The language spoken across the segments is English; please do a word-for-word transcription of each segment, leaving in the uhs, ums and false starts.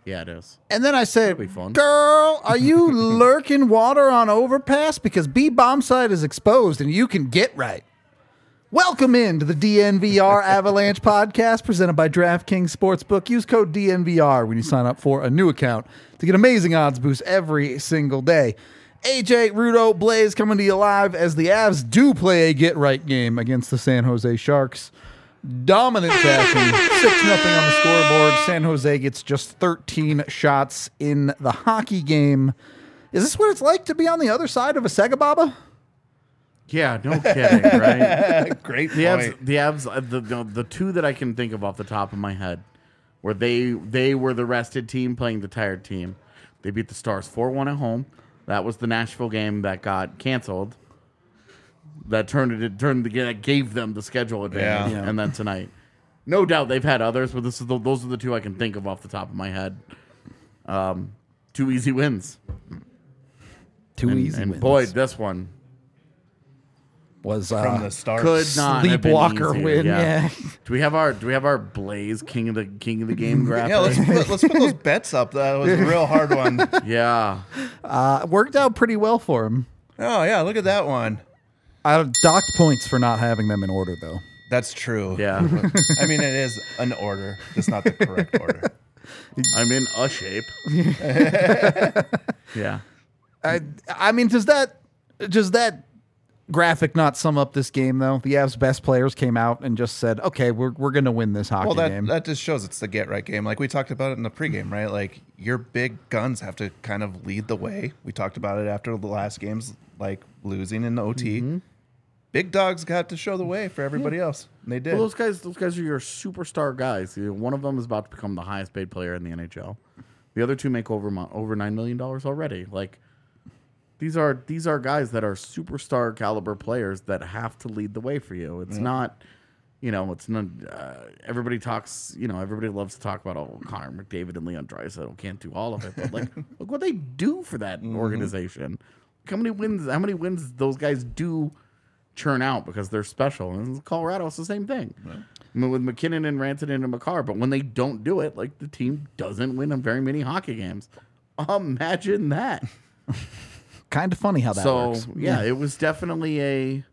Yeah, it is. And then I said, That'll be fun. girl, are you lurking water on overpass? Because B-bomb site is exposed and you can get right. Welcome into the D N V R Avalanche podcast presented by DraftKings Sportsbook. Use code D N V R when you sign up for a new account to get amazing odds boosts every single day. A J, Rudo, Blaze coming to you live as the Avs do play a get-right game against the San Jose Sharks. Dominant fashion, six nothing on the scoreboard. San Jose gets just thirteen shots in the hockey game. Is this what it's like to be on the other side of a Sega Baba? Yeah, no kidding, right? Great The point. Avs, the Avs, uh, the, the the two that I can think of off the top of my head, where they they were the rested team playing the tired team. They beat the Stars four one at home. That was the Nashville game that got canceled. That turned it, it turned the that gave them the schedule advantage, Yeah. and then tonight, no doubt they've had others, but this is the, those are the two I can think of off the top of my head. Um, two easy wins. Two and, easy and wins. boy, this one was From uh, the start. could not have been Sleepwalker easier. win. Yeah. Do we have our Do we have our Blaze King of the King of the Game graphic? Yeah, let's put, let's put those bets up. That was a real hard one. Yeah. Uh, worked out pretty well for him. Oh, yeah, look at that one. I docked points for not having them in order, though. That's true. Yeah. I mean, it is an order, just not the correct order. I'm in a shape. Yeah. I, I mean, does that does that graphic not sum up this game, though? The Avs' best players came out and just said, okay, we're, we're going to win this hockey Well, that, game. that just shows it's the get-right game. Like we talked about it in the pregame, right? Like your big guns have to kind of lead the way. We talked about it after the last games, like losing in the O T. Mm-hmm. Big dogs got to show the way for everybody else. And they did. Well, those guys, those guys are your superstar guys. You know, one of them is about to become the highest paid player in the N H L. The other two make over mo- over nine million dollars already. Like these are these are guys that are superstar caliber players that have to lead the way for you. It's not, you know, it's not. Uh, everybody talks. You know, everybody loves to talk about oh Connor McDavid and Leon Draisaitl can't do all of it, but like look what they do for that organization. Look how many wins? How many wins those guys do churn out because they're special. And Colorado, it's the same thing. Right. I mean, with McKinnon and Rantanen and Makar, but when they don't do it, like the team doesn't win on very many hockey games. Imagine that. Kind of funny how that so, works. yeah, it was definitely a.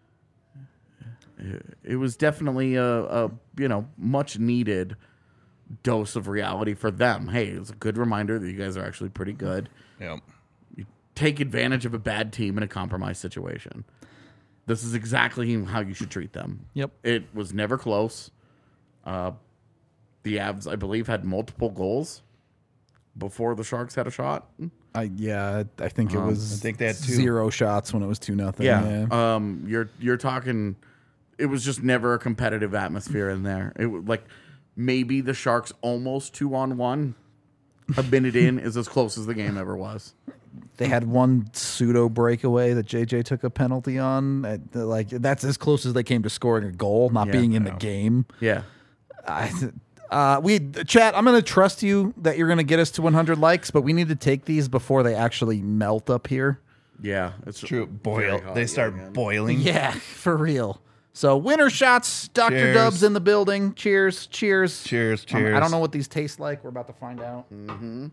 It was definitely a, a you know much needed dose of reality for them. Hey, it was a good reminder that you guys are actually pretty good. Yep. You take advantage of a bad team in a compromised situation. This is exactly how you should treat them. Yep. It was never close. Uh, the Avs, I believe, had multiple goals before the Sharks had a shot. I yeah, I think it was I think they had two. zero shots when it was two nothing. Yeah. Um, you're you're talking. It was just never a competitive atmosphere in there. It was like maybe the Sharks almost two on one. A minute in is as close as the game ever was. They had one pseudo breakaway that J J took a penalty on. Uh, Like that's as close as they came to scoring a goal, not Yeah, being in I the know. game. Yeah. I, uh, we chat. I'm going to trust you that you're going to get us to one hundred likes, but we need to take these before they actually melt up here. Yeah. It's True. very Boil. hot They yet start again. boiling. Yeah, for real. So winner shots, Doctor Cheers. Dubs in the building. Cheers, cheers, Cheers, Um, cheers. I don't know what these taste like. We're about to find out. Mm-hmm.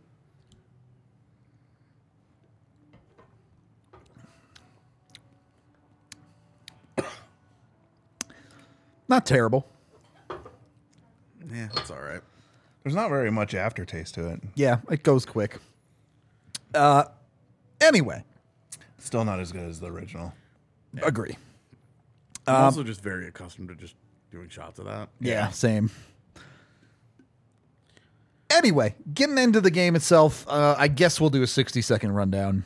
Not terrible. Yeah, that's all right. There's not very much aftertaste to it. Yeah, it goes quick. Uh, anyway, Still not as good as the original. agree. I'm also just very accustomed to just doing shots of that. Yeah, same. Anyway, getting into the game itself, uh, I guess we'll do a sixty second rundown.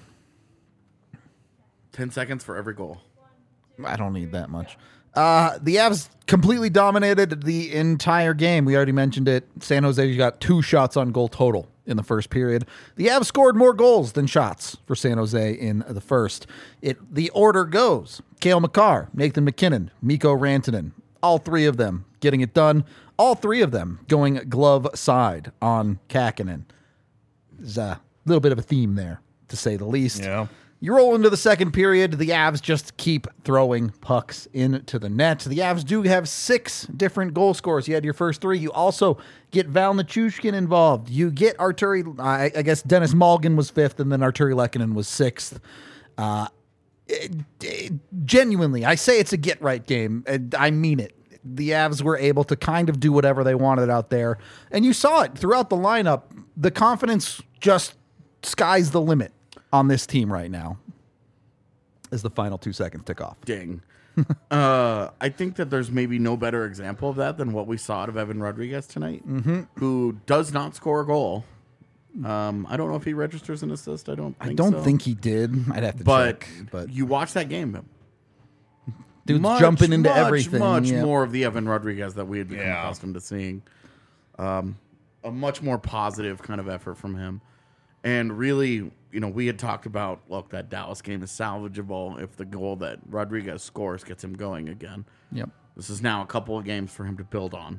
Ten seconds for every goal. I don't need that much. Uh, the Avs completely dominated the entire game. We already mentioned it. San Jose got two shots on goal total in the first period. The Avs scored more goals than shots for San Jose in the first. It the order goes: Cale Makar, Nathan McKinnon, Mikko Rantanen, all three of them getting it done. All three of them going glove side on Kakkonen. There's a little bit of a theme there, to say the least. Yeah. You roll into the second period. The Avs just keep throwing pucks into the net. The Avs do have six different goal scorers. You had your first three. You also get Val Nichushkin involved. You get Arturi, I, I guess Dennis Malgin was fifth, and then Arturi Lehkonen was sixth. Uh, it, it, genuinely, I say it's a get-right game. And I mean it. The Avs were able to kind of do whatever they wanted out there. And you saw it throughout the lineup. The confidence just sky's the limit on this team right now as the final two seconds tick off. Ding. uh, I think that there's maybe no better example of that than what we saw out of Evan Rodriguez tonight, Mm-hmm. who does not score a goal. Um, I don't know if he registers an assist. I don't think I don't so. think he did. I'd have to But, check. But you watch that game. dude's much, jumping into much, everything. Much yeah. more of the Evan Rodriguez that we had become Yeah. accustomed to seeing. Um, a much more positive kind of effort from him. And really, you know, we had talked about, look, that Dallas game is salvageable if the goal that Rodriguez scores gets him going again. Yep. This is now a couple of games for him to build on.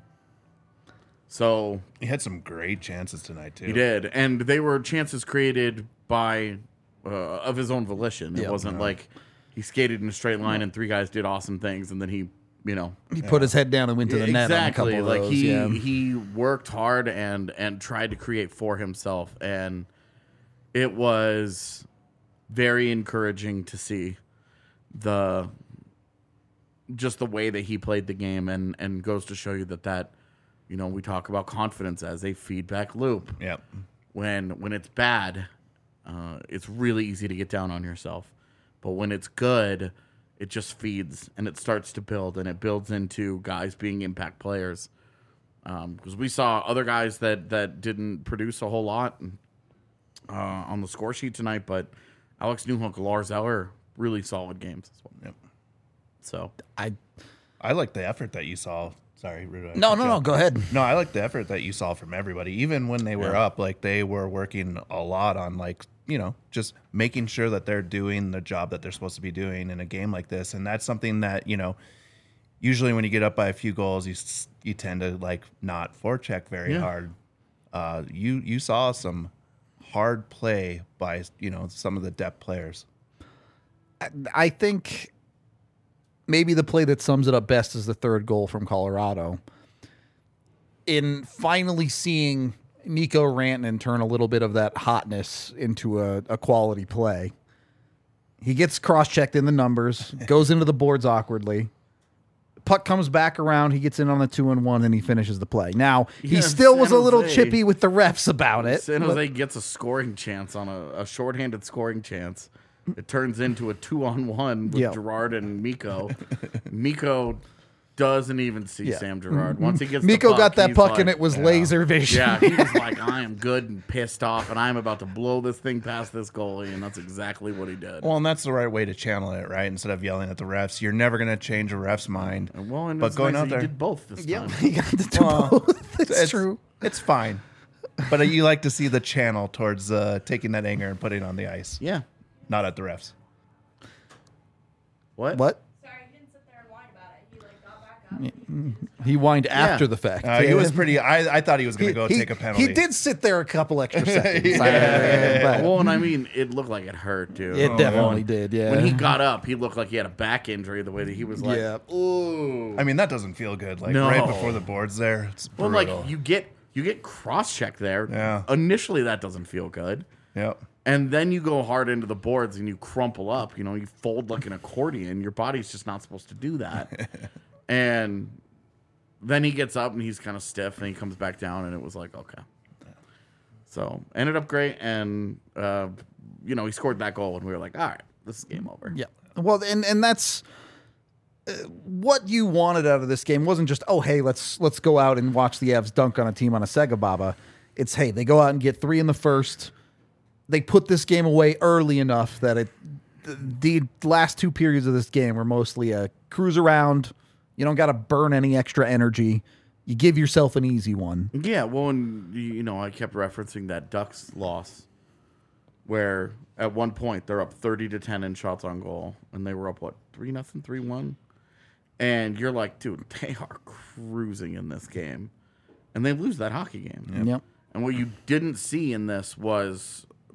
So He had some great chances tonight too. he did. And they were chances created by, uh, of his own volition. It Yep. wasn't like he skated in a straight line and three guys did awesome things and then he, you know, He put his head down and went to the net on a couple exactly. of Like those. he yeah. he worked hard and and tried to create for himself, and it was very encouraging to see the just the way that he played the game, and and goes to show you that that you know we talk about confidence as a feedback loop. Yep. When when it's bad, uh, it's really easy to get down on yourself, but when it's good, it just feeds and it starts to build, and it builds into guys being impact players. Because um, we saw other guys that, that didn't produce a whole lot uh, on the score sheet tonight, but Alex Newhook, Lars Eller, really solid games as well. Yep. So I I like the effort that you saw. Sorry, Rudo. I no, cut no, you no. off. Go ahead. No, I like the effort that you saw from everybody. Even when they were Yeah. up, like they were working a lot on like, you know, just making sure that they're doing the job that they're supposed to be doing in a game like this. And that's something that, you know, usually when you get up by a few goals, you s- you tend to like not forecheck very Yeah. hard. Uh, you you saw some hard play by, you know, some of the depth players. I think maybe the play that sums it up best is the third goal from Colorado. In finally seeing Nico Rantanen turn a little bit of that hotness into a, a quality play, he gets cross-checked in the numbers, goes into the boards awkwardly. Puck comes back around, he gets in on the two and one, and he finishes the play. Now, he Yeah, still was San a little Jose- chippy with the refs about it. San but- Jose gets a scoring chance on a, a shorthanded scoring chance. It turns into a two-on-one with Yeah. Gerard and Miko. Miko doesn't even see Yeah. Sam Gerard. Once he gets the Miko puck, got that he's puck like- and it was laser vision. Yeah, he was like, I am good and pissed off, and I'm about to blow this thing past this goalie, and that's exactly what he did. Well, and that's the right way to channel it, right? Instead of yelling at the refs, you're never going to change a ref's mind. And well, and but it's going nice out that he there, did both this Yeah, time. he got to do Well, both. It's, it's true. It's fine, but you like to see the channel towards uh, taking that anger and putting it on the ice, Yeah. not at the refs. What? What? Sorry, he didn't sit there and whine about it. He like got back up. and He whined after the fact. Uh, he was pretty. I, I thought he was going He, to go he- take a penalty. he did sit there a couple extra seconds. Yeah. but Well, and I mean, it looked like it hurt, dude. it definitely When- did, yeah. When he got up, he looked like he had a back injury. The way that he was like, Yeah. ooh. I mean, that doesn't feel good. Like No. right before the boards, there. It's Well, brutal. like you get you get cross checked there. Yeah. Initially, that doesn't feel good, Yep. and then you go hard into the boards and you crumple up. You know, you fold like an accordion. Your body's just not supposed to do that. And then he gets up and he's kind of stiff, and he comes back down, and it was like, okay. So ended up great, and uh, you know he scored that goal, and we were like, all right, this is game over. Yeah. Well, and and that's uh, what you wanted out of this game. Wasn't just, oh, hey, let's let's go out and watch the Avs dunk on a team on a Sega Baba. It's, hey, they go out and get three in the first. They put this game away early enough that it the the last two periods of this game were mostly a cruise around. You don't got to burn any extra energy. You give yourself an easy one. Yeah, well, and you you know, I kept referencing that Ducks loss, where at one point they're up thirty to ten in shots on goal, and they were up what three nothing, three one, and you're like, dude, they are cruising in this game, and they lose that hockey game. Yep. And what you didn't see in this was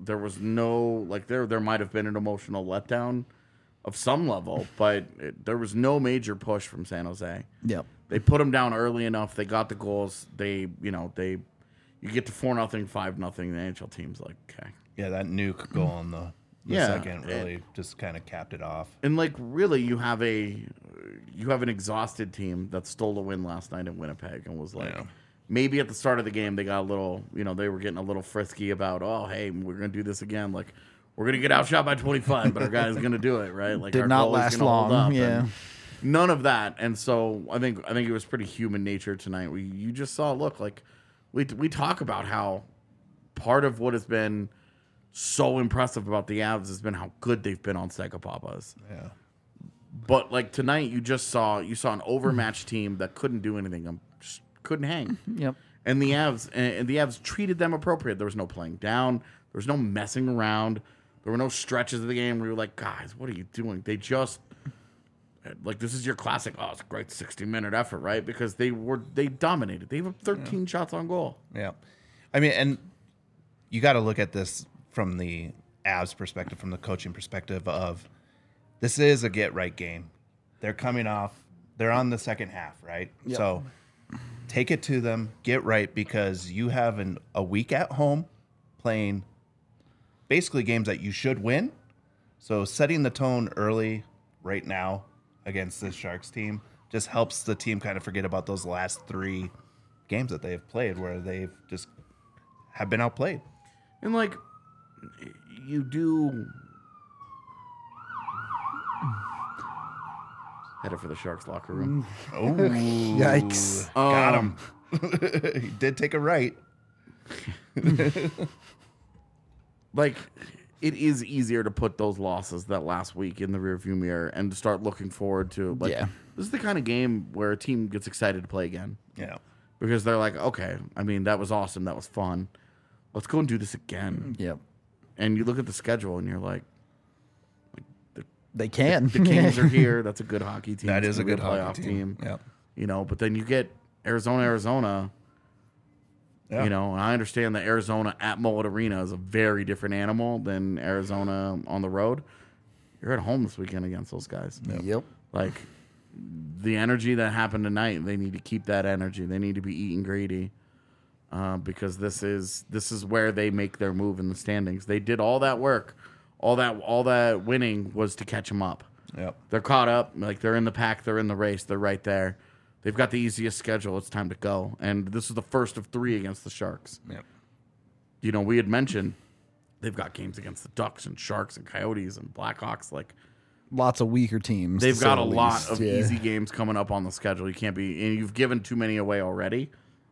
there was no like there there might have been an emotional letdown of some level, but it, there was no major push from San Jose. Yep. They put them down early enough. They got the goals. They you know they you get to four nothing, five nothing. The N H L team's like okay. Yeah, that nuke goal in the, the Yeah, second it- really just kind of capped it off. And like really, you have a you have an exhausted team that stole a win last night in Winnipeg and was like, Yeah. maybe at the start of the game they got a little, you know, they were getting a little frisky about, oh hey, we're gonna do this again. Like we're gonna get outshot by twenty-five, but our guy's gonna do it right. Like Did our not goalie's last gonna hold long, up, yeah. and none of that. And so I think I think it was pretty human nature tonight. We you just saw look like we we talk about how part of what has been so impressive about the Avs has been how good they've been on Psychopapas. Yeah. But like tonight, you just saw you saw an overmatched team that couldn't do anything, um, just couldn't hang. Yep. And the Avs and the Avs treated them appropriate. There was no playing down. There was no messing around. There were no stretches of the game where you were like, guys, what are you doing? They just like this is your classic. Oh, it's a great sixty minute effort, right? Because they were they dominated. They have thirteen shots on goal. Yeah. I mean, and you got to look at this from the Avs perspective, from the coaching perspective of this is a get right game. They're coming off, they're on the second half, right? Yep. So take it to them, get right, because you have an, a week at home playing basically games that you should win. So setting the tone early right now against this Sharks team just helps the team kind of forget about those last three games that they've played where they've just have been outplayed. And like you do headed for the Sharks locker room. Oh, Yikes. got Um, him. He did take a right. Like it is easier to put those losses that last week in the rearview mirror and to start looking forward to like Yeah. this is the kind of game where a team gets excited to play again Yeah. because they're like, okay, I mean that was awesome, that was fun. Let's go and do this again. Yep. And you look at the schedule and you're like, They can. the Kings are here. That's a good hockey team. That It's is a gonna good be hockey playoff team. Yeah. You know, but then you get Arizona, Arizona. Yeah. You know, and I understand that Arizona at Mullet Arena is a very different animal than Arizona on the road. You're at home this weekend against those guys. Yep. Like the energy that happened tonight, they need to keep that energy. They need to be eating greedy uh, because this is this is where they make their move in the standings. They did all that work, all that all that winning was to catch them up. Yep. They're caught up. Like they're in the pack. They're in the race. They're right there. They've got the easiest schedule. It's time to go. And this is the first of three against the Sharks. Yep. You know, we had mentioned they've got games against the Ducks and Sharks and Coyotes and Blackhawks. Like Lots of weaker teams. they've to say got the a lot least. of Yeah. easy games coming up on the schedule. You can't be, and you've given too many away already.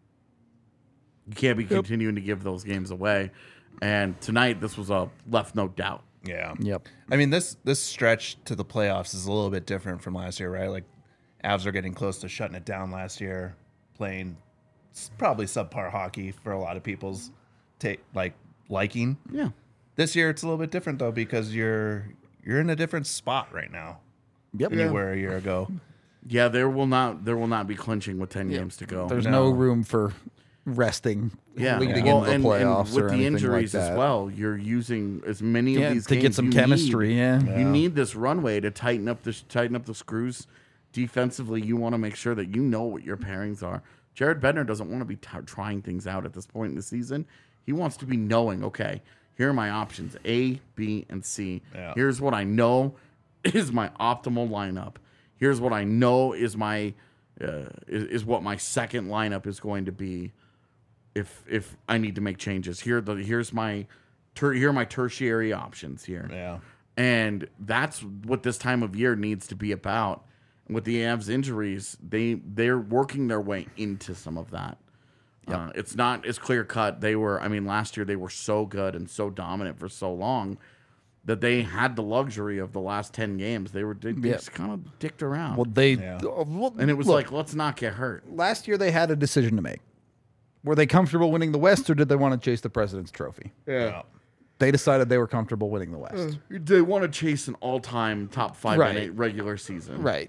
You can't be continuing to give those games away. And tonight, this was a left no doubt. Yeah. Yep. I mean, this this stretch to the playoffs is a little bit different from last year, right? Like, Avs are getting close to shutting it down last year, playing s- probably subpar hockey for a lot of people's take like liking. Yeah. This year, it's a little bit different though because you're you're in a different spot right now Yep. than you were a year ago. Yeah, there will not there will not be clinching with ten games to go. There's No. no room for resting yeah, leading well, into the and, playoffs and with or the anything injuries like as that. well. You're using as many Yeah, of these to games get some you chemistry. need. Yeah. You need this runway to tighten up the tighten up the screws defensively. You want to make sure that you know what your pairings are. Jared Bednar doesn't want to be t- trying things out at this point in the season. He wants to be knowing, okay, here are my options: A, B, and C. Yeah. Here's what I know is my optimal lineup. Here's what I know is my uh, is, is what my second lineup is going to be. If if I need to make changes, here the here's my ter- here are my tertiary options here. Yeah. And that's what this time of year needs to be about. And with the Avs injuries, they they're working their way into some of that. Uh, it's not as clear cut. They were, I mean, last year they were so good and so dominant for so long that they had the luxury of the last ten games. They were they, they Yeah. just kind of dicked around, Well, they Yeah. uh, well, and it was look, like, let's not get hurt. last year they had a decision to make. Were they comfortable winning the West, or did they want to chase the President's Trophy? Yeah. They decided they were comfortable winning the West. They want to chase an all-time top five Right. in a regular season, Right.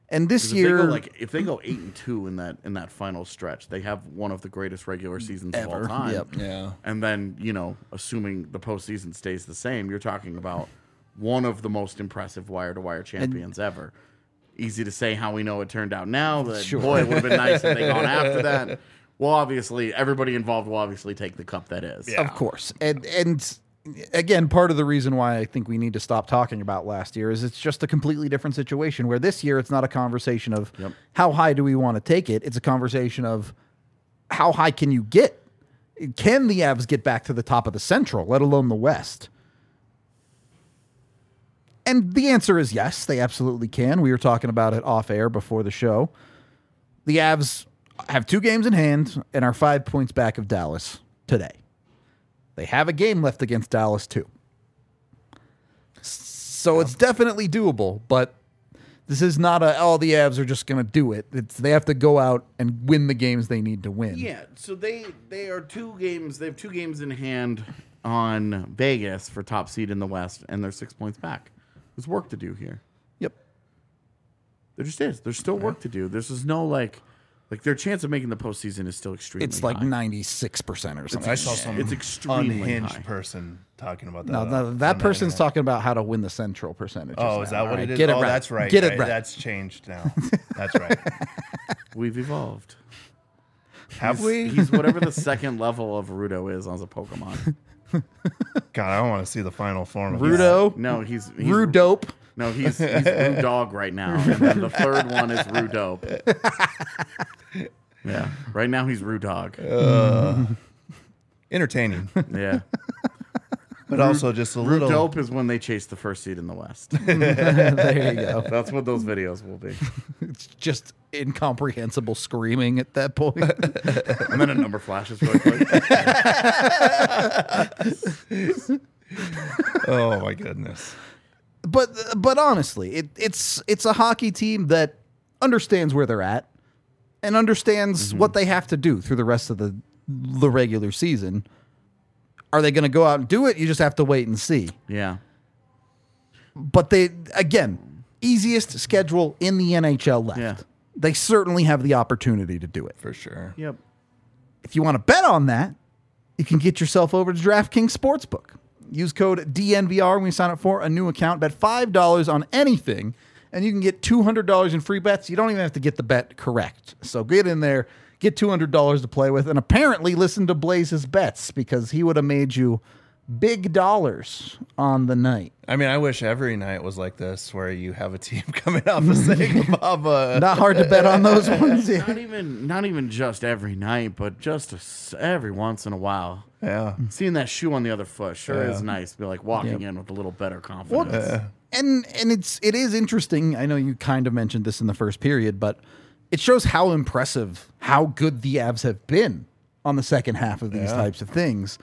And this If they year, go like if they go eight and two in that in that final stretch, they have one of the greatest regular seasons of all Ever. time. Yep. Yeah. And then, you know, assuming the postseason stays the same, you're talking about one of the most impressive wire to wire champions ever. Easy to say how we know it turned out now. That Sure. boy, it would have been nice if they gone after that. Well, obviously, everybody involved will obviously take the cup that is. of course, and and again, part of the reason why I think we need to stop talking about last year is it's just a completely different situation. Where this year, it's not a conversation of Yep. how high do we want to take it. It's a conversation of how high can you get. Can the Avs get back to the top of the Central, let alone the West? And the answer is yes, they absolutely can. We were talking about it off air before the show. The Avs have two games in hand and are five points back of Dallas today. They have a game left against Dallas too. So it's definitely doable, but this is not a, oh, the Avs are just going to do it. It's they have to go out and win the games they need to win. Yeah, so they they are two games. They have two games in hand on Vegas for top seed in the West, and they're six points back. There's work to do here. Yep. There just is. There's still work to do. There's just no like, like their chance of making the postseason is still extremely. It's like high. ninety-six percent or something. I saw some It's extremely unhinged high. person talking about that. No, on- no, on that the person's internet. talking about how to win the Central percentage. Oh, is that what it is? Get it oh, right. that's right. Get it right. right. That's changed now. That's right. We've evolved. Have we? He's whatever the second level of Rudo is on the Pokemon. God, I don't want to see the final form of Rudo, No, he's, he's Rudope. No, he's he's Rue Dog right now, and then the third one is Rue Dope. Yeah, right now he's Rue Dog. that. Entertaining, Yeah, but also just a Rue little. Dope is when they chase the first seed in the West. There you go. That's what those videos will be. It's just incomprehensible screaming at that point. And then a number flashes really quick. Oh my goodness. but but honestly, it, it's it's a hockey team that understands where they're at and understands what they have to do through the rest of the the regular season. Are they going to go out and do it? You just have to wait and see. Yeah, But they again, easiest schedule in the N H L left. Yeah. They certainly have the opportunity to do it. For sure. yep. If you want to bet on that, you can get yourself over to DraftKings Sportsbook. Use code D N V R when you sign up for a new account. Bet five dollars on anything, and you can get two hundred dollars in free bets. You don't even have to get the bet correct. So get in there, get two hundred dollars to play with, and apparently listen to Blaze's bets because he would have made you big dollars on the night. I mean, I wish every night was like this, where you have a team coming off of saying Baba. Not hard to bet on those ones. Yeah. Not even not even just every night, but just a s every once in a while. Yeah. Seeing that shoe on the other foot sure Yeah. is nice. Be like walking Yep. in with a little better confidence. And and it's it is interesting. I know you kind of mentioned this in the first period, but it shows how impressive, how good the Avs have been on the second half of these Yeah. types of things.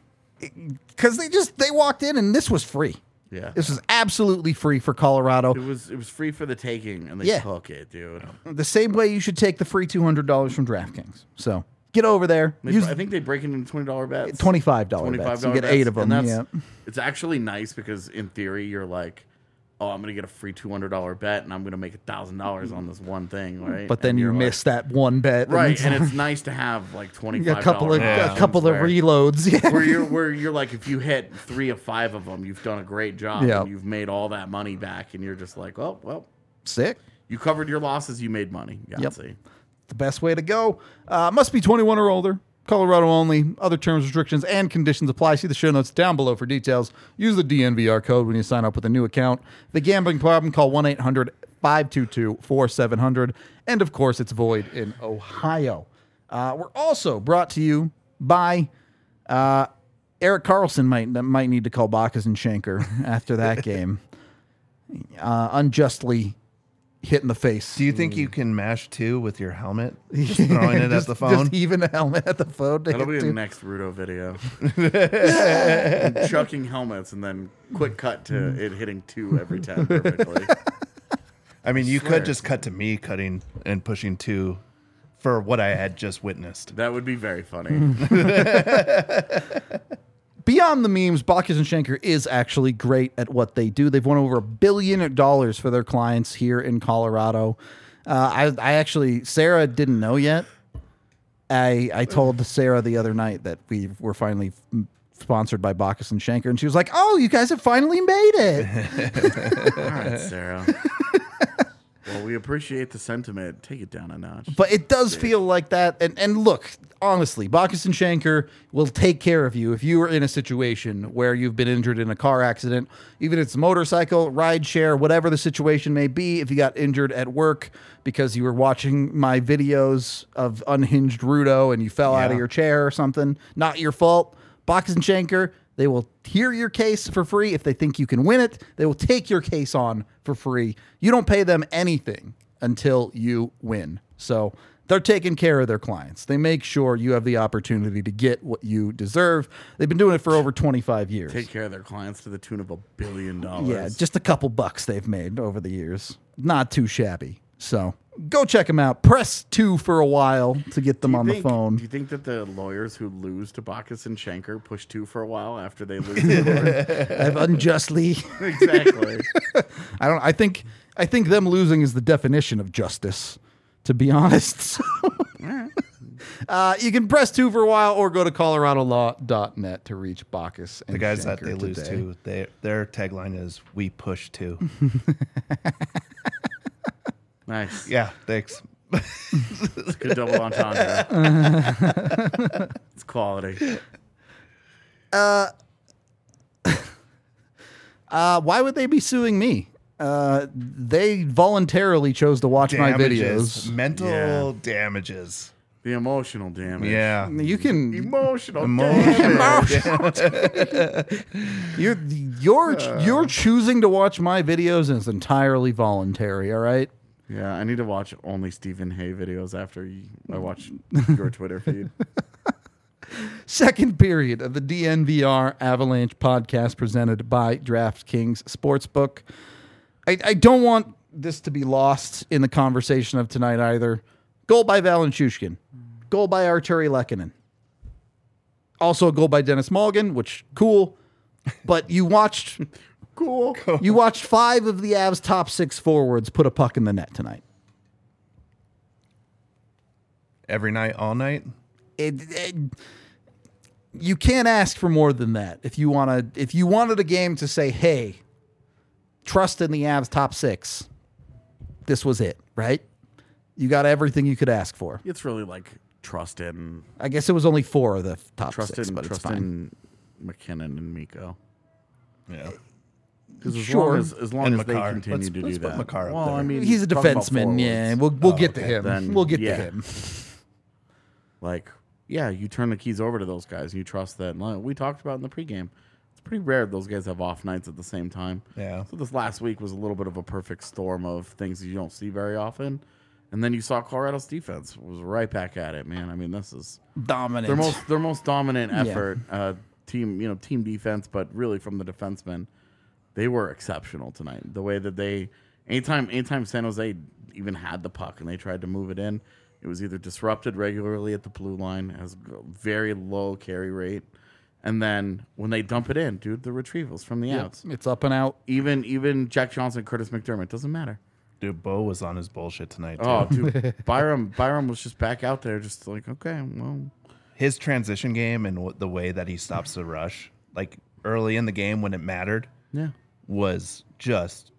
Because they just they walked in and this was free. Yeah. This was absolutely free for Colorado. It was it was free for the taking, and they Yeah. took it, dude. The same way you should take the free two hundred dollars from DraftKings. So get over there. They- Use I think they break it into twenty dollar bets. twenty-five dollars twenty-five bets. You dollar get eight bets, of them. and Yeah. that's- It's actually nice because in theory you're like, oh, I'm gonna get a free two hundred dollar bet, and I'm gonna make a thousand dollars on this one thing, right? But then And you you're miss that one bet. like, right, it's and like- it's nice to have like twenty a five couple of Yeah. a couple of reloads. Yeah. where you're where you're like, if you hit three of five of them, you've done a great job, Yeah. and you've made all that money back, and you're just like, oh well, Sick. you covered your losses, you made money. Yep. Yahtzee. The best way to go. Uh, must be twenty-one or older. Colorado only. Other terms, restrictions, and conditions apply. See the show notes down below for details. Use the D N V R code when you sign up with a new account. The gambling problem, call one eight hundred five two two four seven zero zero. And, of course, it's void in Ohio. Uh, we're also brought to you by uh, Eric Carlson might might need to call Bacchus and Schenker after that game. Uh, unjustly hit in the face. Do you think you can mash two with your helmet? Just throwing it just, at the phone? Just even a helmet at the phone. to That'll hit be to- the next Rudo video. Chucking helmets and then quick cut to it hitting two every time perfectly. I mean, you Swear. could just cut to me cutting and pushing two for what I had just witnessed. That would be very funny. Beyond beyond the memes, Bacchus and Schenker is actually great at what they do. They've won over a billion dollars for their clients here in Colorado. Uh, I, I actually, Sarah didn't know yet. I I told Sarah the other night that we were finally f- sponsored by Bacchus and Schenker, and she was like, "Oh, you guys have finally made it." All right, Sarah. Well, we appreciate the sentiment. Take it down a notch. But it does feel like that. And and look, honestly, Bacchus and Schenker will take care of you if you are in a situation where you've been injured in a car accident, even if it's a motorcycle, ride share, whatever the situation may be. If you got injured at work because you were watching my videos of unhinged Rudo and you fell out of Yeah. your chair or something, not your fault. Bacchus and Schenker, they will hear your case for free. If they think you can win it, they will take your case on for free. You don't pay them anything until you win. So they're taking care of their clients. They make sure you have the opportunity to get what you deserve. They've been doing it for over twenty-five years. Take care of their clients to the tune of a billion dollars. Yeah, just a couple bucks they've made over the years. Not too shabby. So go check them out. Press two for a while to get them Do you on think- the phone. Do you think that the lawyers who lose to Bacchus and Schenker push two for a while after they lose? in court? I've unjustly. Exactly. I don't. I think. I think them losing is the definition of justice. To be honest. uh, you can press two for a while, or go to colorado law dot net to reach Bacchus and The guys that Schenker they lose today. to, they, their tagline is "We push too." Nice. Yeah, thanks. It's good double entendre. It's quality. Uh, why would they be suing me? Uh, they voluntarily chose to watch my Damages, videos. mental Yeah. damages. The emotional damage. Yeah, You can. Emotional Emotional damage. You're you're you're choosing to watch my videos, and it's entirely voluntary. All right. Yeah, I need to watch only Stephen Hay videos after you, I watch your Twitter feed. Second period of the D N V R Avalanche podcast presented by DraftKings Sportsbook. I, I don't want this to be lost in the conversation of tonight either. Goal by Valenchushkin. Goal by Arturi Lehkonen. Also a goal by Dennis Mulligan, which, cool. But you watched Cool. you watched five of the Avs' top six forwards put a puck in the net tonight. every night, all night. It, it, you can't ask for more than that. If you want to, if you wanted a game to say, "Hey, trust in the Avs top six," this was it, right? You got everything you could ask for. It's really like trust in I guess it was only four of the top trust six, in but it's trust fine. in McKinnon and Miko. Yeah, Because as Sure. long as as long And as they Makar. continue Let's- to let's do put that. Makar up well, there. I mean, He's a talking about defenseman, yeah. forwards. We'll we'll Oh, get to okay. him. Then, we'll get yeah. to him. Like, yeah, you turn the keys over to those guys and you trust that. Like we talked about in the pregame. It's pretty rare those guys have off nights at the same time. yeah. So this last week was a little bit of a perfect storm of things that you don't see very often. And then you saw Colorado's defense was right back at it, man. I mean, this is Dominant. their most their most dominant Yeah. effort, uh, team you know team defense, but really from the defensemen, they were exceptional tonight. The way that they anytime anytime San Jose even had the puck and they tried to move it in, it was either disrupted regularly at the blue line, has a very low carry rate, and then when they dump it in, dude, the retrievals from the Yep. outs, It's up and out. even even Jack Johnson, Curtis McDermott, doesn't matter. Dude, Bo was on his bullshit tonight. Too. Oh, dude, Byram Byram was just back out there, just like okay, well. His transition game and w- the way that he stops the rush, like early in the game when it mattered, Yeah, was just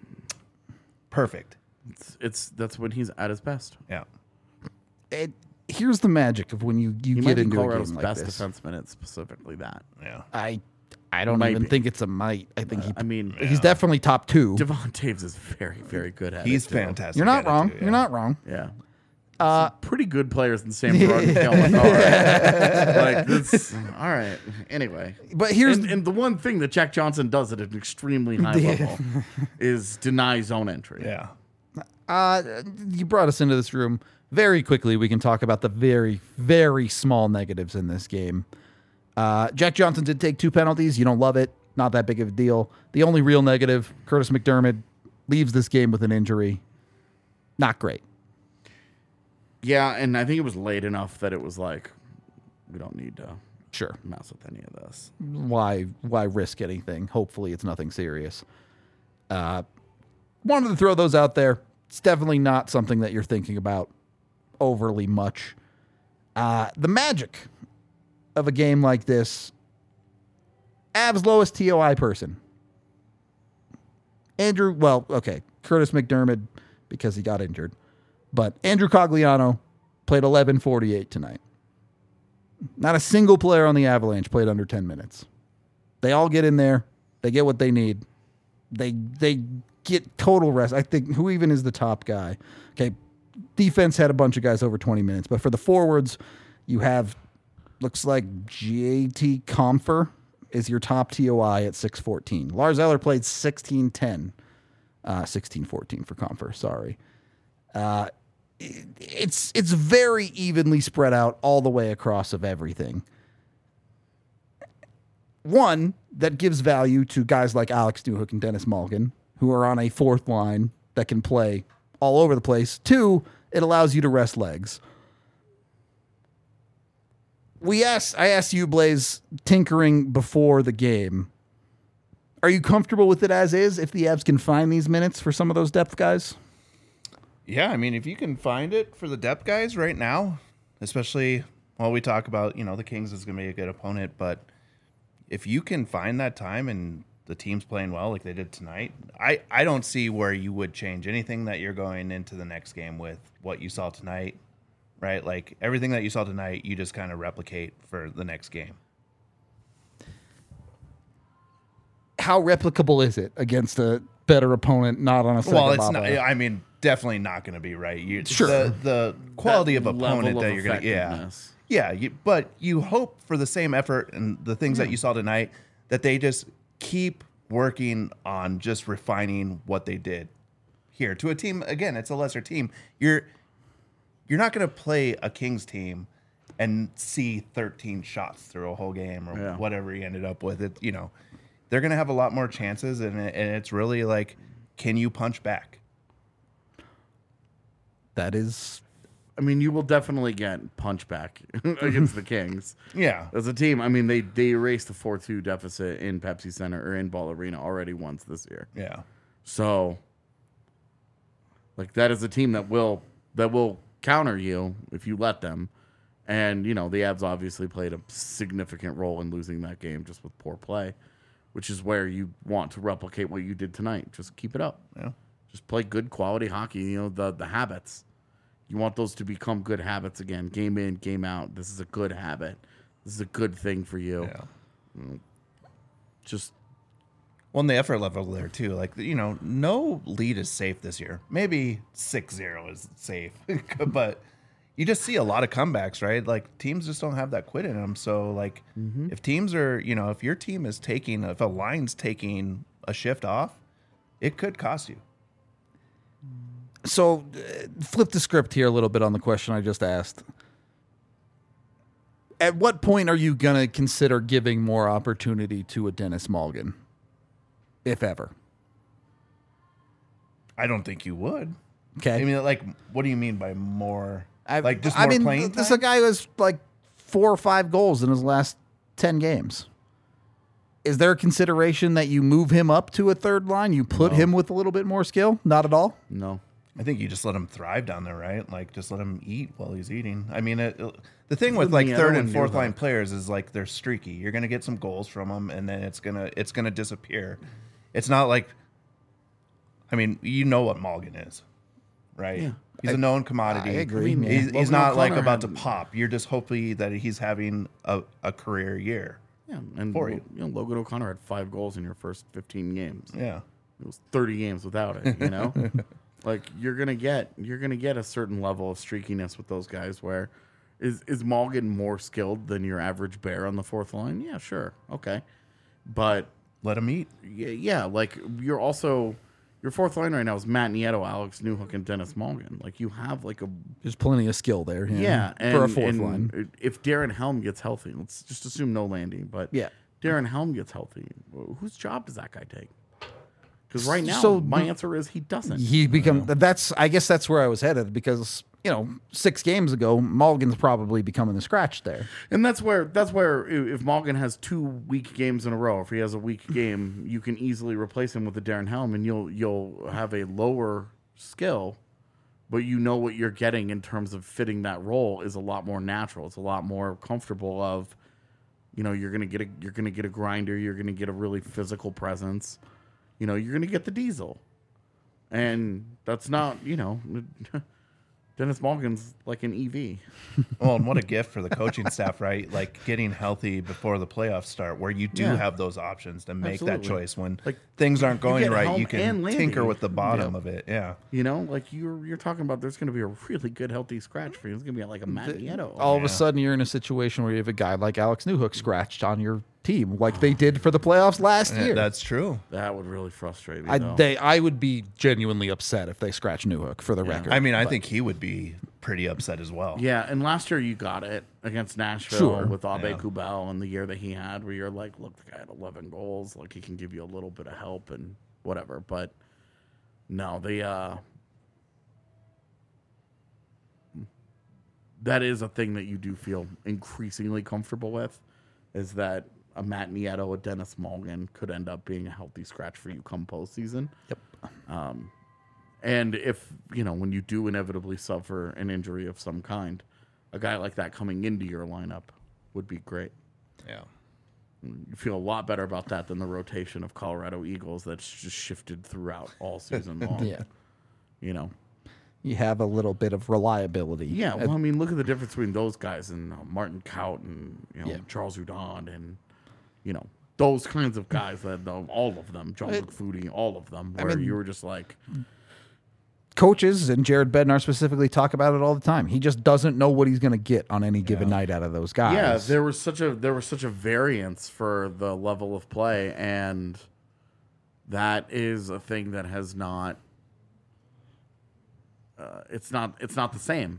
perfect. it's, it's that's when he's at his best. Yeah. It, here's the magic of when you, you He get might be into a Colorado's game like best this. defenseman. It's specifically that. Yeah. I I don't Might even be. think it's a might. I think he I mean, he's definitely top two. Devon Taves is very, very good at He's it. too. fantastic. You're not at it, wrong. too, You're yeah. not wrong. Yeah. Uh, Pretty good players in Sam Girard and Kale McCarr. Like this. All right. Anyway, but here's and, and the one thing that Jack Johnson does at an extremely high Yeah. level is deny zone entry. Yeah. uh, you brought us into this room very quickly. We can talk about the very, very small negatives in this game. Uh, Jack Johnson did take two penalties. You don't love it. Not that big of a deal. The only real negative, Curtis McDermott leaves this game with an injury. Not great. Yeah, and I think it was late enough that it was like, we don't need to. Sure. mess with any of this. Why why risk anything? Hopefully it's nothing serious. Uh, wanted to throw those out there. It's definitely not something that you're thinking about overly much. Uh, the magic of a game like this, Avs lowest T O I person. Andrew, well, okay, Curtis McDermott because he got injured. But Andrew Cogliano played eleven forty-eight tonight. Not a single player on the Avalanche played under ten minutes. They all get in there. They get what they need. They they get total rest. I think, who even is the top guy? Okay, defense had a bunch of guys over twenty minutes. But for the forwards, you have, looks like J T Compher is your top T O I at six fourteen. Lars Eller played sixteen ten. Uh, sixteen fourteen for Compher, sorry. Uh, it, it's it's very evenly spread out all the way across of everything. One, that gives value to guys like Alex Newhook and Dennis Malgin, who are on a fourth line that can play all over the place. Two, it allows you to rest legs. We asked, I asked you, Blaze, tinkering before the game. Are you comfortable with it as is if the Avs can find these minutes for some of those depth guys? Yeah, I mean, if you can find it for the depth guys right now, especially while we talk about, you know, the Kings is going to be a good opponent, but if you can find that time and the team's playing well like they did tonight, I, I don't see where you would change anything that you're going into the next game with what you saw tonight, right? Like everything that you saw tonight, you just kind of replicate for the next game. How replicable is it against a better opponent, not on a second Well, it's bobble? not, I mean, definitely not going to be right. You, Sure. The, the quality That of opponent level that of you're going to, yeah. effectiveness. Yeah, you, but you hope for the same effort and the things that you saw tonight that they just keep working on just refining what they did here to a team. Again, it's a lesser team. You're you're not going to play a Kings team and see thirteen shots through a whole game or Yeah. whatever he ended up with. It, you know, they're going to have a lot more chances, and it, and it's really like, can you punch back? That is, I mean, you will definitely get punchback against the Kings. Yeah. As a team, I mean, they, they erased the four two deficit in Pepsi Center or in Ball Arena already once this year. Yeah. So, like, that is a team that will that will counter you if you let them. And, you know, the Avs obviously played a significant role in losing that game just with poor play, which is where you want to replicate what you did tonight. Just keep it up. Yeah. Just play good quality hockey, you know, the the habits. You want those to become good habits again. Game in, game out. This is a good habit. This is a good thing for you. Yeah. Just Well, and the effort level there too. Like, you know, no lead is safe this year. Maybe six zero is safe, but you just see a lot of comebacks, right? Like teams just don't have that quit in them. So like if teams are, you know, if your team is taking, if a line's taking a shift off, it could cost you. so uh, flip the script here a little bit on the question I just asked. At what point are you going to consider giving more opportunity to a Dennis Malgin, if ever? I don't think you would. Okay. I mean, like, what do you mean by more? I, like just I more mean, playing this is time? a guy who has like four or five goals in his last ten games. Is there a consideration that you move him up to a third line? You put him with a little bit more skill? Not at all. no. I think you just let him thrive down there, right? Like, just let him eat while he's eating. I mean, it, the thing with like Yeah, third no and one fourth knew line that. players is like they're streaky. You're gonna get some goals from them, and then it's gonna it's gonna disappear. It's not like, I mean, you know what Malgin is, right? Yeah. He's a known commodity. I agree, I mean, yeah. He's, he's Logan not like O'Connor about to had- pop. You're just hoping that he's having a, a career year. Yeah, and For you. you know, Logan O'Connor had five goals in your first fifteen games. Yeah. It was thirty games without it, you know? Like you're gonna get you're gonna get a certain level of streakiness with those guys where is is Malgin more skilled than your average bear on the fourth line? Yeah, sure. Okay. But Let him eat. yeah, yeah, like you're also your fourth line right now is Matt Nieto, Alex Newhook, and Dennis Malgin. Like you have like a There's plenty of skill there. Yeah, yeah, and, for a fourth and line. If Darren Helm gets healthy, let's just assume no landing, but Yeah. Darren Helm gets healthy, whose job does that guy take? Because right now, So- my answer is he doesn't. He become that's I guess that's where I was headed because you know, six games ago, Mulligan's probably becoming the scratch there. And that's where that's where i- if Morgan has two weak games in a row, if he has a weak game, you can easily replace him with a Darren Helm, and you'll you'll have a lower skill, but you know what you're getting in terms of fitting that role is a lot more natural. It's a lot more comfortable. Of, you know, you're gonna get a you're gonna get a grinder, you're gonna get a really physical presence, you know, you're gonna get the diesel, and that's not, you know. Dennis Morgan's like an E V. Well, and what a gift for the coaching staff, right? Like getting healthy before the playoffs start, where you do Yeah. have those options to make that Absolutely. choice when Like, things aren't you going get right. Helm You can and Landy. tinker with the bottom Yeah. of it. Yeah. You know, like you're you're talking about, there's going to be a really good, healthy scratch for you. It's going to be like a Matt Nieto. All of Yeah. a sudden, you're in a situation where you have a guy like Alex Newhook scratched on your team, like they did for the playoffs last Yeah, year. that's true. That would really frustrate me. I, though. they, I would be genuinely upset if they scratch Newhook, for the record. I mean, I think he would be pretty upset as well. Yeah, and last year you got it against Nashville Sure. with Abe Yeah. Kubel and the year that he had, where you're like, look, the guy had eleven goals, like he can give you a little bit of help and whatever. But no, the uh, that is a thing that you do feel increasingly comfortable with, is that a Matt Nieto, a Dennis Morgan could end up being a healthy scratch for you come postseason. Yep. Um, and if, you know, when you do inevitably suffer an injury of some kind, a guy like that coming into your lineup would be great. Yeah. You feel a lot better about that than the rotation of Colorado Eagles that's just shifted throughout all season long. Yeah. You know? You have a little bit of reliability. Yeah, Uh, well, I mean, look at the difference between those guys and uh, Martin Kaut and, you know, Yeah. Charles Hudon and, you know, those kinds of guys that, uh, all of them, John It- McFoodie, all of them, I where mean- you were just like, coaches and Jared Bednar specifically talk about it all the time. He just doesn't know what he's going to get on any given night out of those guys. yeah, there was such a there was such a variance for the level of play, and that is a thing that has not. Uh, it's not. It's not the same.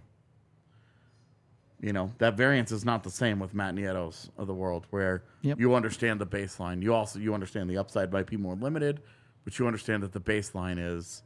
You know, that variance is not the same with Matt Nieto's of the world, where Yep. you understand the baseline. You also you understand the upside might be more limited, but you understand that the baseline is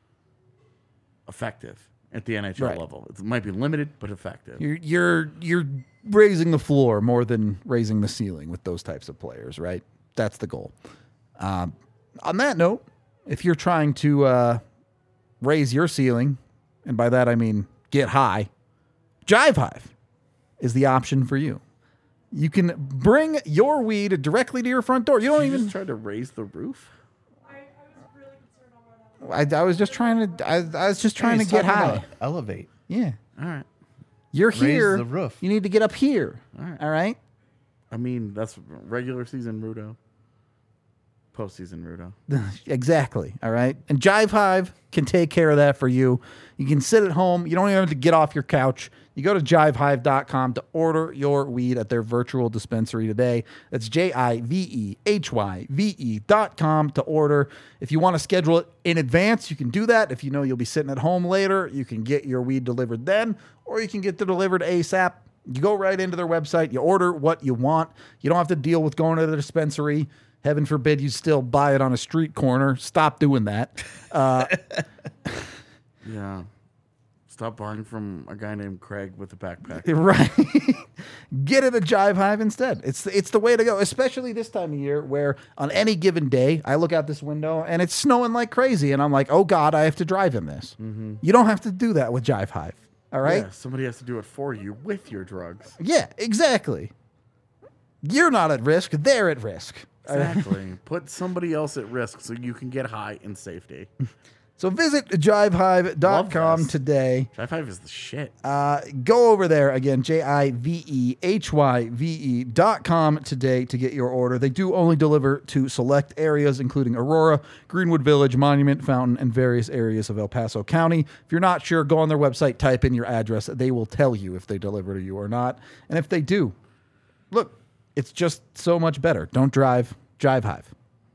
effective at the N H L Right. level. It might be limited, but effective. You're you're you're raising the floor more than raising the ceiling with those types of players, right? That's the goal. Um, on that note, if you're trying to uh, raise your ceiling, and by that I mean get high, Jive Hive is the option for you. You can bring your weed directly to your front door. You don't You even. just tried to raise the roof. I, I was really concerned on where that was. I, I was just trying to. I, I was just trying He's to get talking high. about elevate. Yeah, All right. you're Raise here. the roof. You need to get up here. All right. All right. I mean, that's regular season Rudo. Postseason Rudo. Exactly. All right. And Jive Hive can take care of that for you. You can sit at home. You don't even have to get off your couch. You go to jive hive dot com to order your weed at their virtual dispensary today. That's J I V E H Y V E dot com to order. If you want to schedule it in advance, you can do that. If you know you'll be sitting at home later, you can get your weed delivered then, or you can get it delivered ASAP. You go right into their website, you order what you want. You don't have to deal with going to the dispensary. Heaven forbid you still buy it on a street corner. Stop doing that. Uh, Yeah. Stop buying from a guy named Craig with a backpack. right. Get it a Jive Hive instead. It's it's the way to go, especially this time of year where on any given day I look out this window and it's snowing like crazy and I'm like, oh God, I have to drive in this. You don't have to do that with Jive Hive. All right? Yeah, somebody has to do it for you with your drugs. Yeah, exactly. You're not at risk. They're at risk. Exactly. Put somebody else at risk so you can get high in safety. So visit jive hive dot com Love this. today. Jive Five is the shit. Uh, go over there again, J I V E H Y V E dot com today to get your order. They do only deliver to select areas, including Aurora, Greenwood Village, Monument, Fountain, and various areas of El Paso County. If you're not sure, go on their website, type in your address. They will tell you if they deliver to you or not. And if they do, look, it's just so much better. Don't drive, Jive Hive.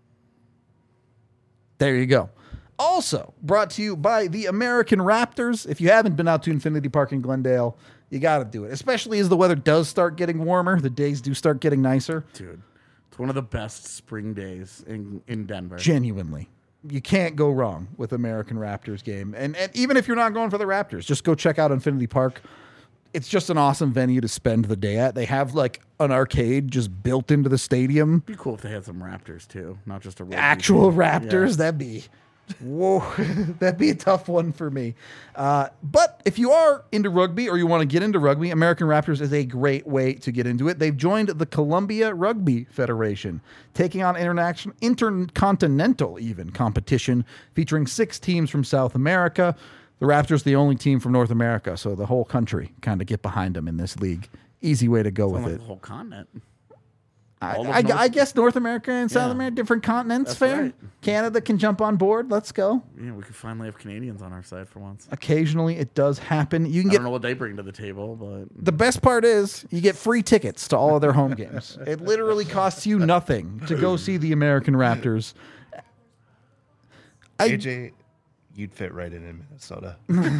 There you go. Also brought to you by the American Raptors. If you haven't been out to Infinity Park in Glendale, you got to do it, especially as the weather does start getting warmer. The days do start getting nicer. Dude, it's one of the best spring days in, in Denver. Genuinely. you can't go wrong with American Raptors game. And, and even if you're not going for the Raptors, just go check out Infinity Park. It's just an awesome venue to spend the day at. They have like an arcade just built into the stadium. It'd be cool if they had some Raptors too, not just a rugby Actual team. Raptors, Yeah. that'd be, whoa, that'd be a tough one for me. Uh, but if you are into rugby or you want to get into rugby, American Raptors is a great way to get into it. They've joined the Columbia Rugby Federation, taking on international, intercontinental even competition, featuring six teams from South America. The Raptors, the only team from North America, so the whole country kind of get behind them in this league. Easy way to go Sounds with like it. the whole continent. I, all of I, North- I guess North America and South Yeah. America, different continents, That's fair. right. Canada can jump on board. Let's go. Yeah, we could finally have Canadians on our side for once. Occasionally, it does happen. You can I get don't know what they bring to the table, but the best part is you get free tickets to all of their home games. It literally costs you nothing to go see the American Raptors. I, A J, you'd fit right in in Minnesota.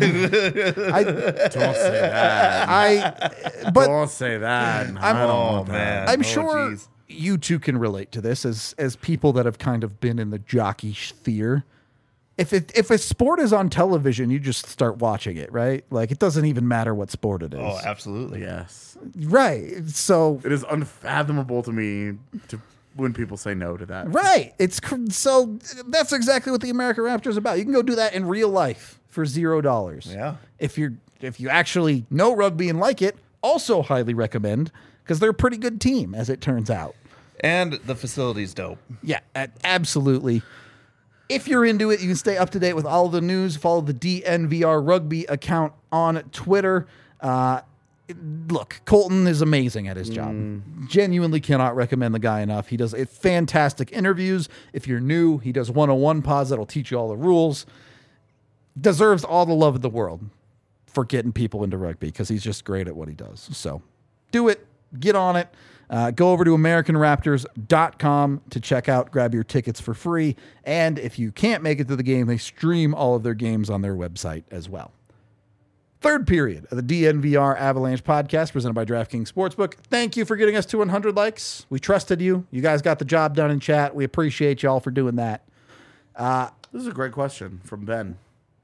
I, don't say that. I, but don't say that. I'm- I don't Oh want that. man, I'm Oh, sure geez. you two can relate to this as as people that have kind of been in the jockey sphere. If it if a sport is on television, you just start watching it, right? Like it doesn't even matter what sport it is. Oh, absolutely. Yes, Right. So it is unfathomable to me to when people say no to that. right. It's cr- so that's exactly what the American Raptors is about. You can go do that in real life for zero dollars. Yeah. If you're if you actually know rugby and like it, also highly recommend because they're a pretty good team, as it turns out. And the facility's dope. Yeah, a- absolutely. If you're into it, you can stay up to date with all the news. Follow the D N V R Rugby account on Twitter. Uh, look, Colton is amazing at his job. Genuinely cannot recommend the guy enough. He does fantastic interviews. If you're new, he does one oh one pods that'll teach you all the rules. Deserves all the love of the world for getting people into rugby because he's just great at what he does. So do it. Get on it. Uh, go over to American Raptors dot com to check out, grab your tickets for free. And if you can't make it to the game, they stream all of their games on their website as well. Third period of the D N V R Avalanche podcast presented by DraftKings Sportsbook. Thank you for getting us to one hundred likes. We trusted you. You guys got the job done in chat. We appreciate y'all for doing that. This is a great question from Ben.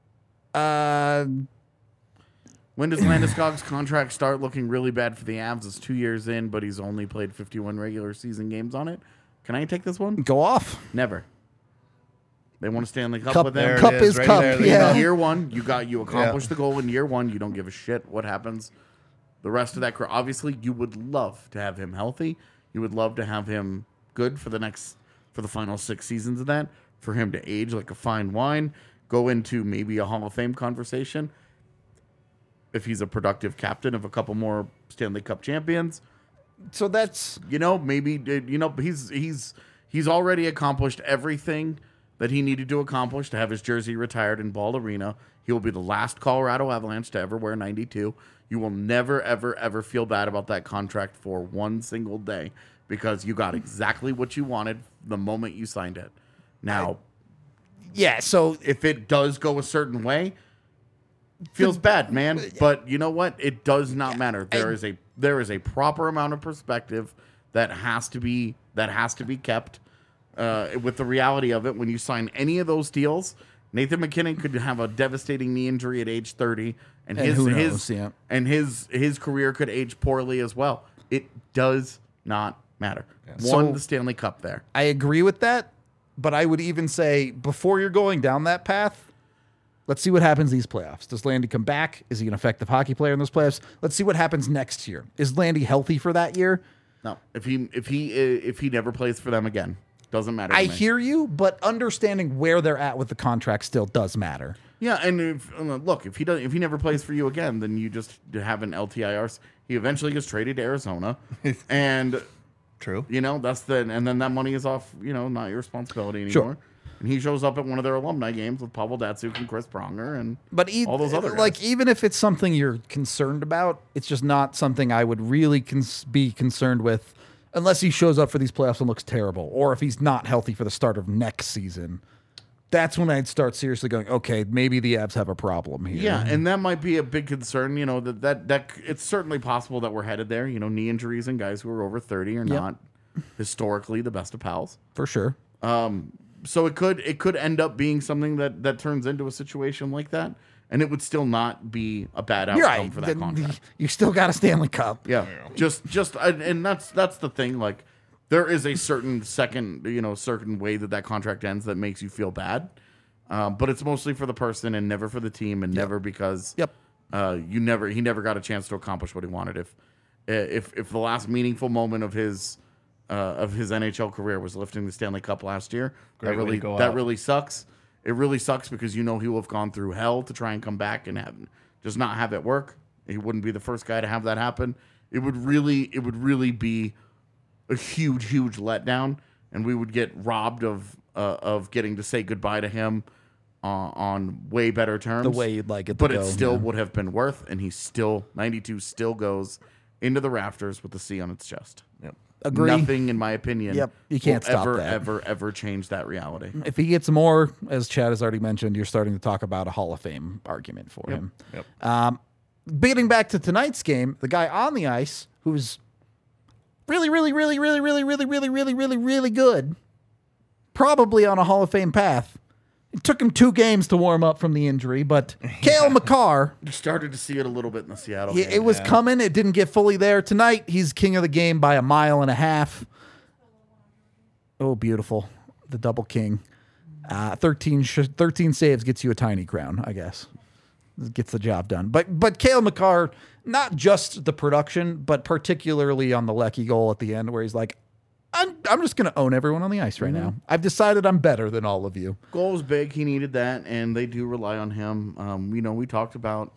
Uh, When does Landeskog's contract start looking really bad for the Avs? It's two years in, but he's only played fifty-one regular season games on it. Can I take this one? go off. Never. They want to Stanley Cup, Cup, with There them. it cup is, is right cup. there, Yeah. In year one, you got you accomplished Yeah. the goal in year one. You don't give a shit what happens. The rest of that career, obviously, you would love to have him healthy. You would love to have him good for the next for the final six seasons of that. For him to age like a fine wine, go into maybe a Hall of Fame conversation. If he's a productive captain of a couple more Stanley Cup champions, So that's you know, maybe you know he's he's he's already accomplished everything that he needed to accomplish to have his jersey retired in Ball Arena. He will be the last Colorado Avalanche to ever wear ninety-two. You will never, ever, ever feel bad about that contract for one single day because you got exactly what you wanted the moment you signed it. Now, yeah. So if it does go a certain way, feels bad, man. But you know what? It does not matter. There is a there is a proper amount of perspective that has to be that has to be kept. Uh, with the reality of it, when you sign any of those deals, Nathan McKinnon could have a devastating knee injury at age thirty, and, And his who his knows, yeah. and his his career could age poorly as well. It does not matter. Won So- the Stanley Cup there. I agree with that, but I would even say before you're going down that path, let's see what happens these playoffs. Does Landy come back? Is he an effective hockey player in those playoffs? Let's see what happens next year. Is Landy healthy for that year? No, if he if he if he never plays for them again, doesn't matter. to I me. hear you, but understanding where they're at with the contract still does matter. Yeah, and if, uh, look, if he does, if he never plays for you again, then you just have an L T I R. He eventually gets traded to Arizona, and True. you know that's the and then that money is off. You know, not your responsibility anymore. Sure. And he shows up at one of their alumni games with Pavel Datsuk and Chris Pronger and But e- all those other guys. like even if it's something you're concerned about, it's just not something I would really cons- be concerned with unless he shows up for these playoffs and looks terrible, or if he's not healthy for the start of next season. That's when I'd start seriously going, okay, maybe the Avs have a problem here. Yeah, and that might be a big concern. You know that that that it's certainly possible that we're headed there. You know, knee injuries and guys who are over thirty are Yep. not historically the best of pals. for sure. Um, so it could it could end up being something that that turns into a situation like that, and it would still not be a bad outcome You're right. for that The- contract. You still got a Stanley Cup. Yeah, just just and and that's that's the thing. Like, there is a certain second, you know, certain way that that contract ends that makes you feel bad, um, but it's mostly for the person and never for the team, and never because Yep. uh, you never he never got a chance to accomplish what he wanted. If if if the last meaningful moment of his uh, of his N H L career was lifting the Stanley Cup last year, Great that way to really go that out. really sucks. It really sucks because you know he will have gone through hell to try and come back and have just not have it work. He wouldn't be the first guy to have that happen. It would really, it would really be a huge, huge letdown, and we would get robbed of uh, of getting to say goodbye to him uh, on way better terms. The way you'd like it to but go, it still yeah. would have been worth. And he still ninety-two still goes into the rafters with the C on its chest. Yep. Agree. Nothing, in my opinion, Yep, you can't will stop ever, that. ever, ever change that reality. If he gets more, as Chad has already mentioned, you're starting to talk about a Hall of Fame argument for him. Yep. Um, getting back to tonight's game, the guy on the ice who's really, really, really, really, really, really, really, really, really, really good, probably on a Hall of Fame path. It took him two games to warm up from the injury, but Cale Makar, You started to see it a little bit in the Seattle he- game. it was coming. It didn't get fully there. Tonight, he's king of the game by a mile and a half. Oh, beautiful. The double king. Uh, thirteen, sh- thirteen saves gets you a tiny crown, I guess. Gets the job done. But but Cale Makar, not just the production, but particularly on the Lecky goal at the end where he's like, I'm, I'm just going to own everyone on the ice right now. I've decided I'm better than all of you. Goal was big. He needed that, and they do rely on him. Um, you know, we talked about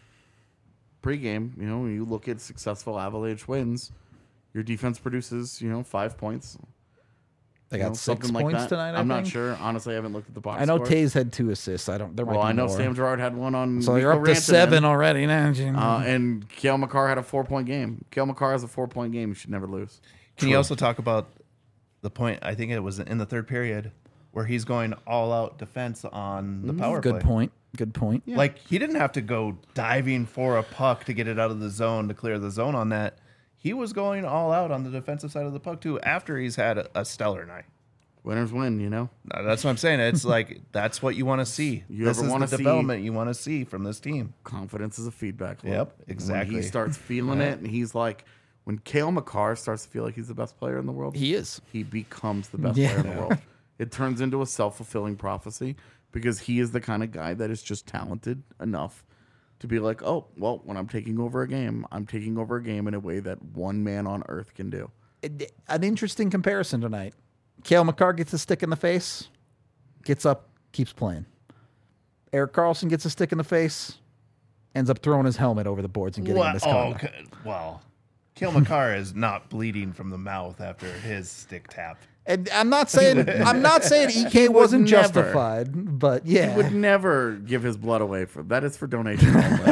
pregame. You know, when you look at successful Avalanche wins, your defense produces, you know, five points. They you got know, six something like points that. tonight, I I'm not think. sure. Honestly, I haven't looked at the box I know score. Taze had two assists. I don't. There might Well, be I know more. Sam Gerard had one on. So you're Mikko up to Rantanen. seven already now. Uh, and Cale Makar had a four-point game. Cale Makar has a four-point game. You should never lose. Can you also talk about the point? I think it was in the third period where he's going all out defense on the power Good play. point. Good point. Like he didn't have to go diving for a puck to get it out of the zone to clear the zone on that. He was going all out on the defensive side of the puck too after he's had a, a stellar night. Winners win, you know. Uh, That's what I'm saying. It's like that's what you want to see. You this ever is wanna the see- development you want to see from this team. Confidence is a feedback loop. Yep, When exactly. he starts feeling it, and he's like, when Cale Makar starts to feel like he's the best player in the world, He is. he becomes the best Yeah. player in the world. It turns into a self-fulfilling prophecy because he is the kind of guy that is just talented enough to be like, oh, well, when I'm taking over a game, I'm taking over a game in a way that one man on earth can do. It- An interesting comparison tonight. Cale Makar gets a stick in the face, gets up, keeps playing. Eric Carlson gets a stick in the face, ends up throwing his helmet over the boards and getting Well, a misconduct. oh, okay. Well, Cale Makar is not bleeding from the mouth after his stick tap. And I'm not saying I'm not saying E K would wasn't never. justified, but He yeah, would never give his blood away for that. Is for donation only.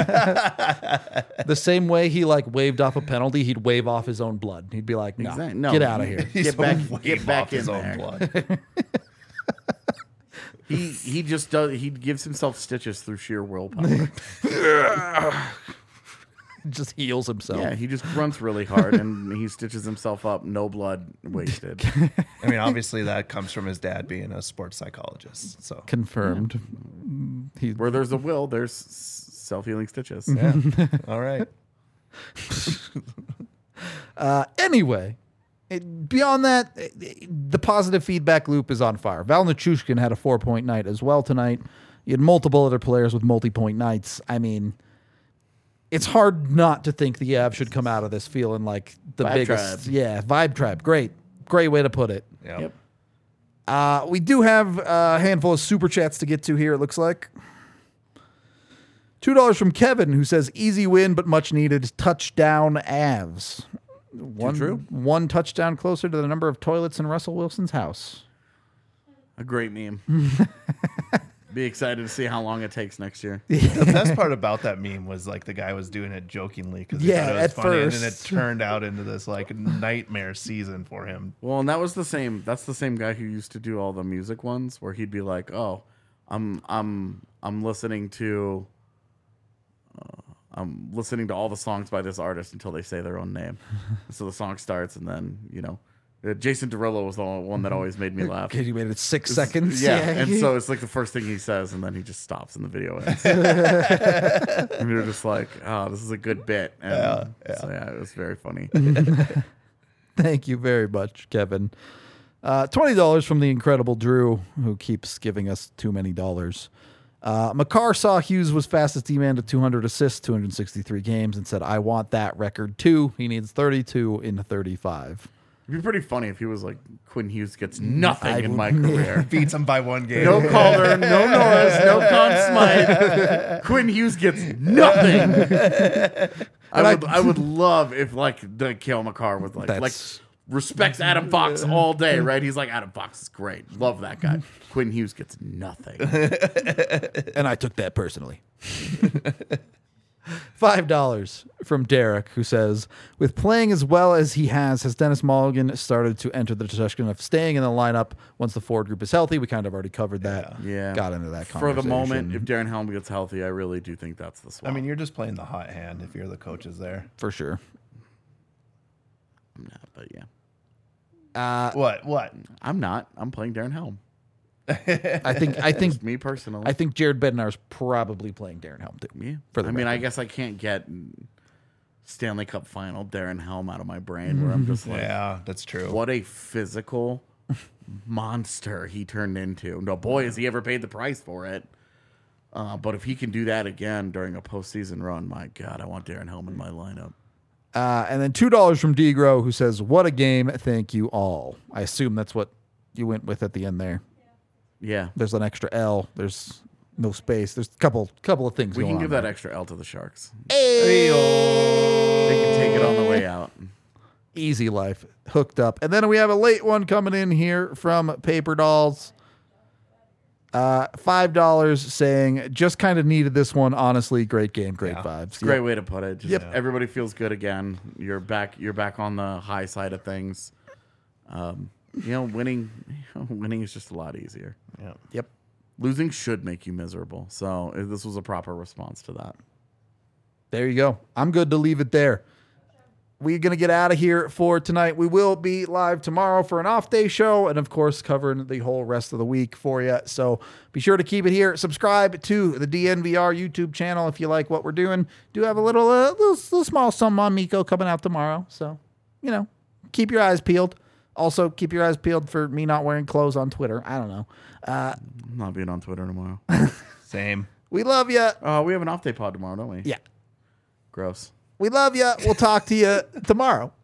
the same way he like waved off a penalty, he'd wave off his own blood. He'd be like, "No, Exact- no, get out of he- here." He's Get back- gonna get wave back off his in own there. blood. he he just does. He gives himself stitches through sheer willpower. Just heals himself. Yeah, he just grunts really hard and he stitches himself up. No blood wasted. I mean, obviously that comes from his dad being a sports psychologist. So Confirmed. He, Where there's a will, there's self healing stitches. yeah, all right. Uh, anyway, it, beyond that, it, the positive feedback loop is on fire. Val Nichushkin had a four-point night as well tonight. You had multiple other players with multi-point nights. I mean, it's hard not to think the Avs should come out of this feeling like the Vibe biggest. tribe. Yeah, vibe tribe. Great. Great way to put it. Yep. Yep. Uh, we do have a handful of super chats to get to here, it looks like. two dollars from Kevin, who says, easy win, but much needed. Touchdown Avs. One, true. one touchdown closer to the number of toilets in Russell Wilson's house. A great meme. Be excited to see how long it takes next year. The best part about that meme was like the guy was doing it jokingly because Yeah, thought it was at funny, and then it first. turned out into this like nightmare season for him. Well, and that was the same. That's the same guy who used to do all the music ones, where he'd be like, "Oh, I'm I'm I'm listening to, uh, I'm listening to all the songs by this artist until they say their own name." So the song starts, and then you know, Uh, Jason Derulo was the one that always made me laugh. Because you made it six seconds. Yeah, and so it's like the first thing he says, and then he just stops in the video ends. And you're just like, oh, this is a good bit. And Yeah, yeah. So yeah, it was very funny. Thank you very much, Kevin. Uh, twenty dollars from the incredible Drew, who keeps giving us too many dollars. Uh, McCarr saw Hughes was fastest D-man to two hundred assists, two hundred sixty-three games, and said, I want that record too. He needs thirty-two in thirty-five. It'd be pretty funny if he was like, Quinn Hughes gets nothing I in would- my career. Beats him by one game. No Calder, no Norris, no Conn Smythe. Quinn Hughes gets nothing. I would, I would love if like the Cale McCarr was like, That's- like respects Adam Fox all day, right? He's like, Adam Fox is great, love that guy. Quinn Hughes gets nothing. And I took that personally. Five dollars from Derek, who says, with playing as well as he has, has Dennis Mulligan started to enter the discussion of staying in the lineup once the forward group is healthy? We kind of already covered that. Yeah, Got into that For conversation. the moment, if Darren Helm gets healthy, I really do think that's the swap. I mean, you're just playing the hot hand if you're the coaches there. For sure. I'm not, but yeah, Uh, What? What? I'm not. I'm playing Darren Helm. I think I think Just me personally. I think Jared Bednar is probably playing Darren Helm too. Yeah. For the I mean, I record. guess I can't get Stanley Cup final Darren Helm out of my brain where I'm just like, Yeah, that's true. what a physical monster he turned into. No, boy, has he ever paid the price for it. Uh, but if he can do that again during a postseason run, my God, I want Darren Helm in my lineup. Uh, and then two dollars from Degro, who says, "What a game! Thank you all." I assume that's what you went with at the end there. Yeah. There's an extra L. There's no space. There's a couple couple of things. We going can give on that there. extra L to the Sharks. Hey. They can take it on the way out. Easy life hooked up. And then we have a late one coming in here from Paper Dolls. Uh, five dollars saying, just kind of needed this one. Honestly, great game, great Yeah. vibes. Great way to put it. Just Yep. everybody feels good again. You're back. You're back on the high side of things. Um, you know, winning, winning is just a lot easier. Yeah. Yep. Losing should make you miserable. So uh, this was a proper response to that. There you go. I'm good to leave it there. We're going to get out of here for tonight. We will be live tomorrow for an off day show and, of course, covering the whole rest of the week for you. So be sure to keep it here. Subscribe to the D N V R YouTube channel if you like what we're doing. Do have a little, uh, little, little small something on Miko coming out tomorrow. So, you know, keep your eyes peeled. Also, keep your eyes peeled for me not wearing clothes on Twitter. I don't know. Uh, I'm not being on Twitter tomorrow. Same. we love you. uh, we have an off day pod tomorrow, don't we? Yeah. Gross. We love you. We'll talk to you tomorrow.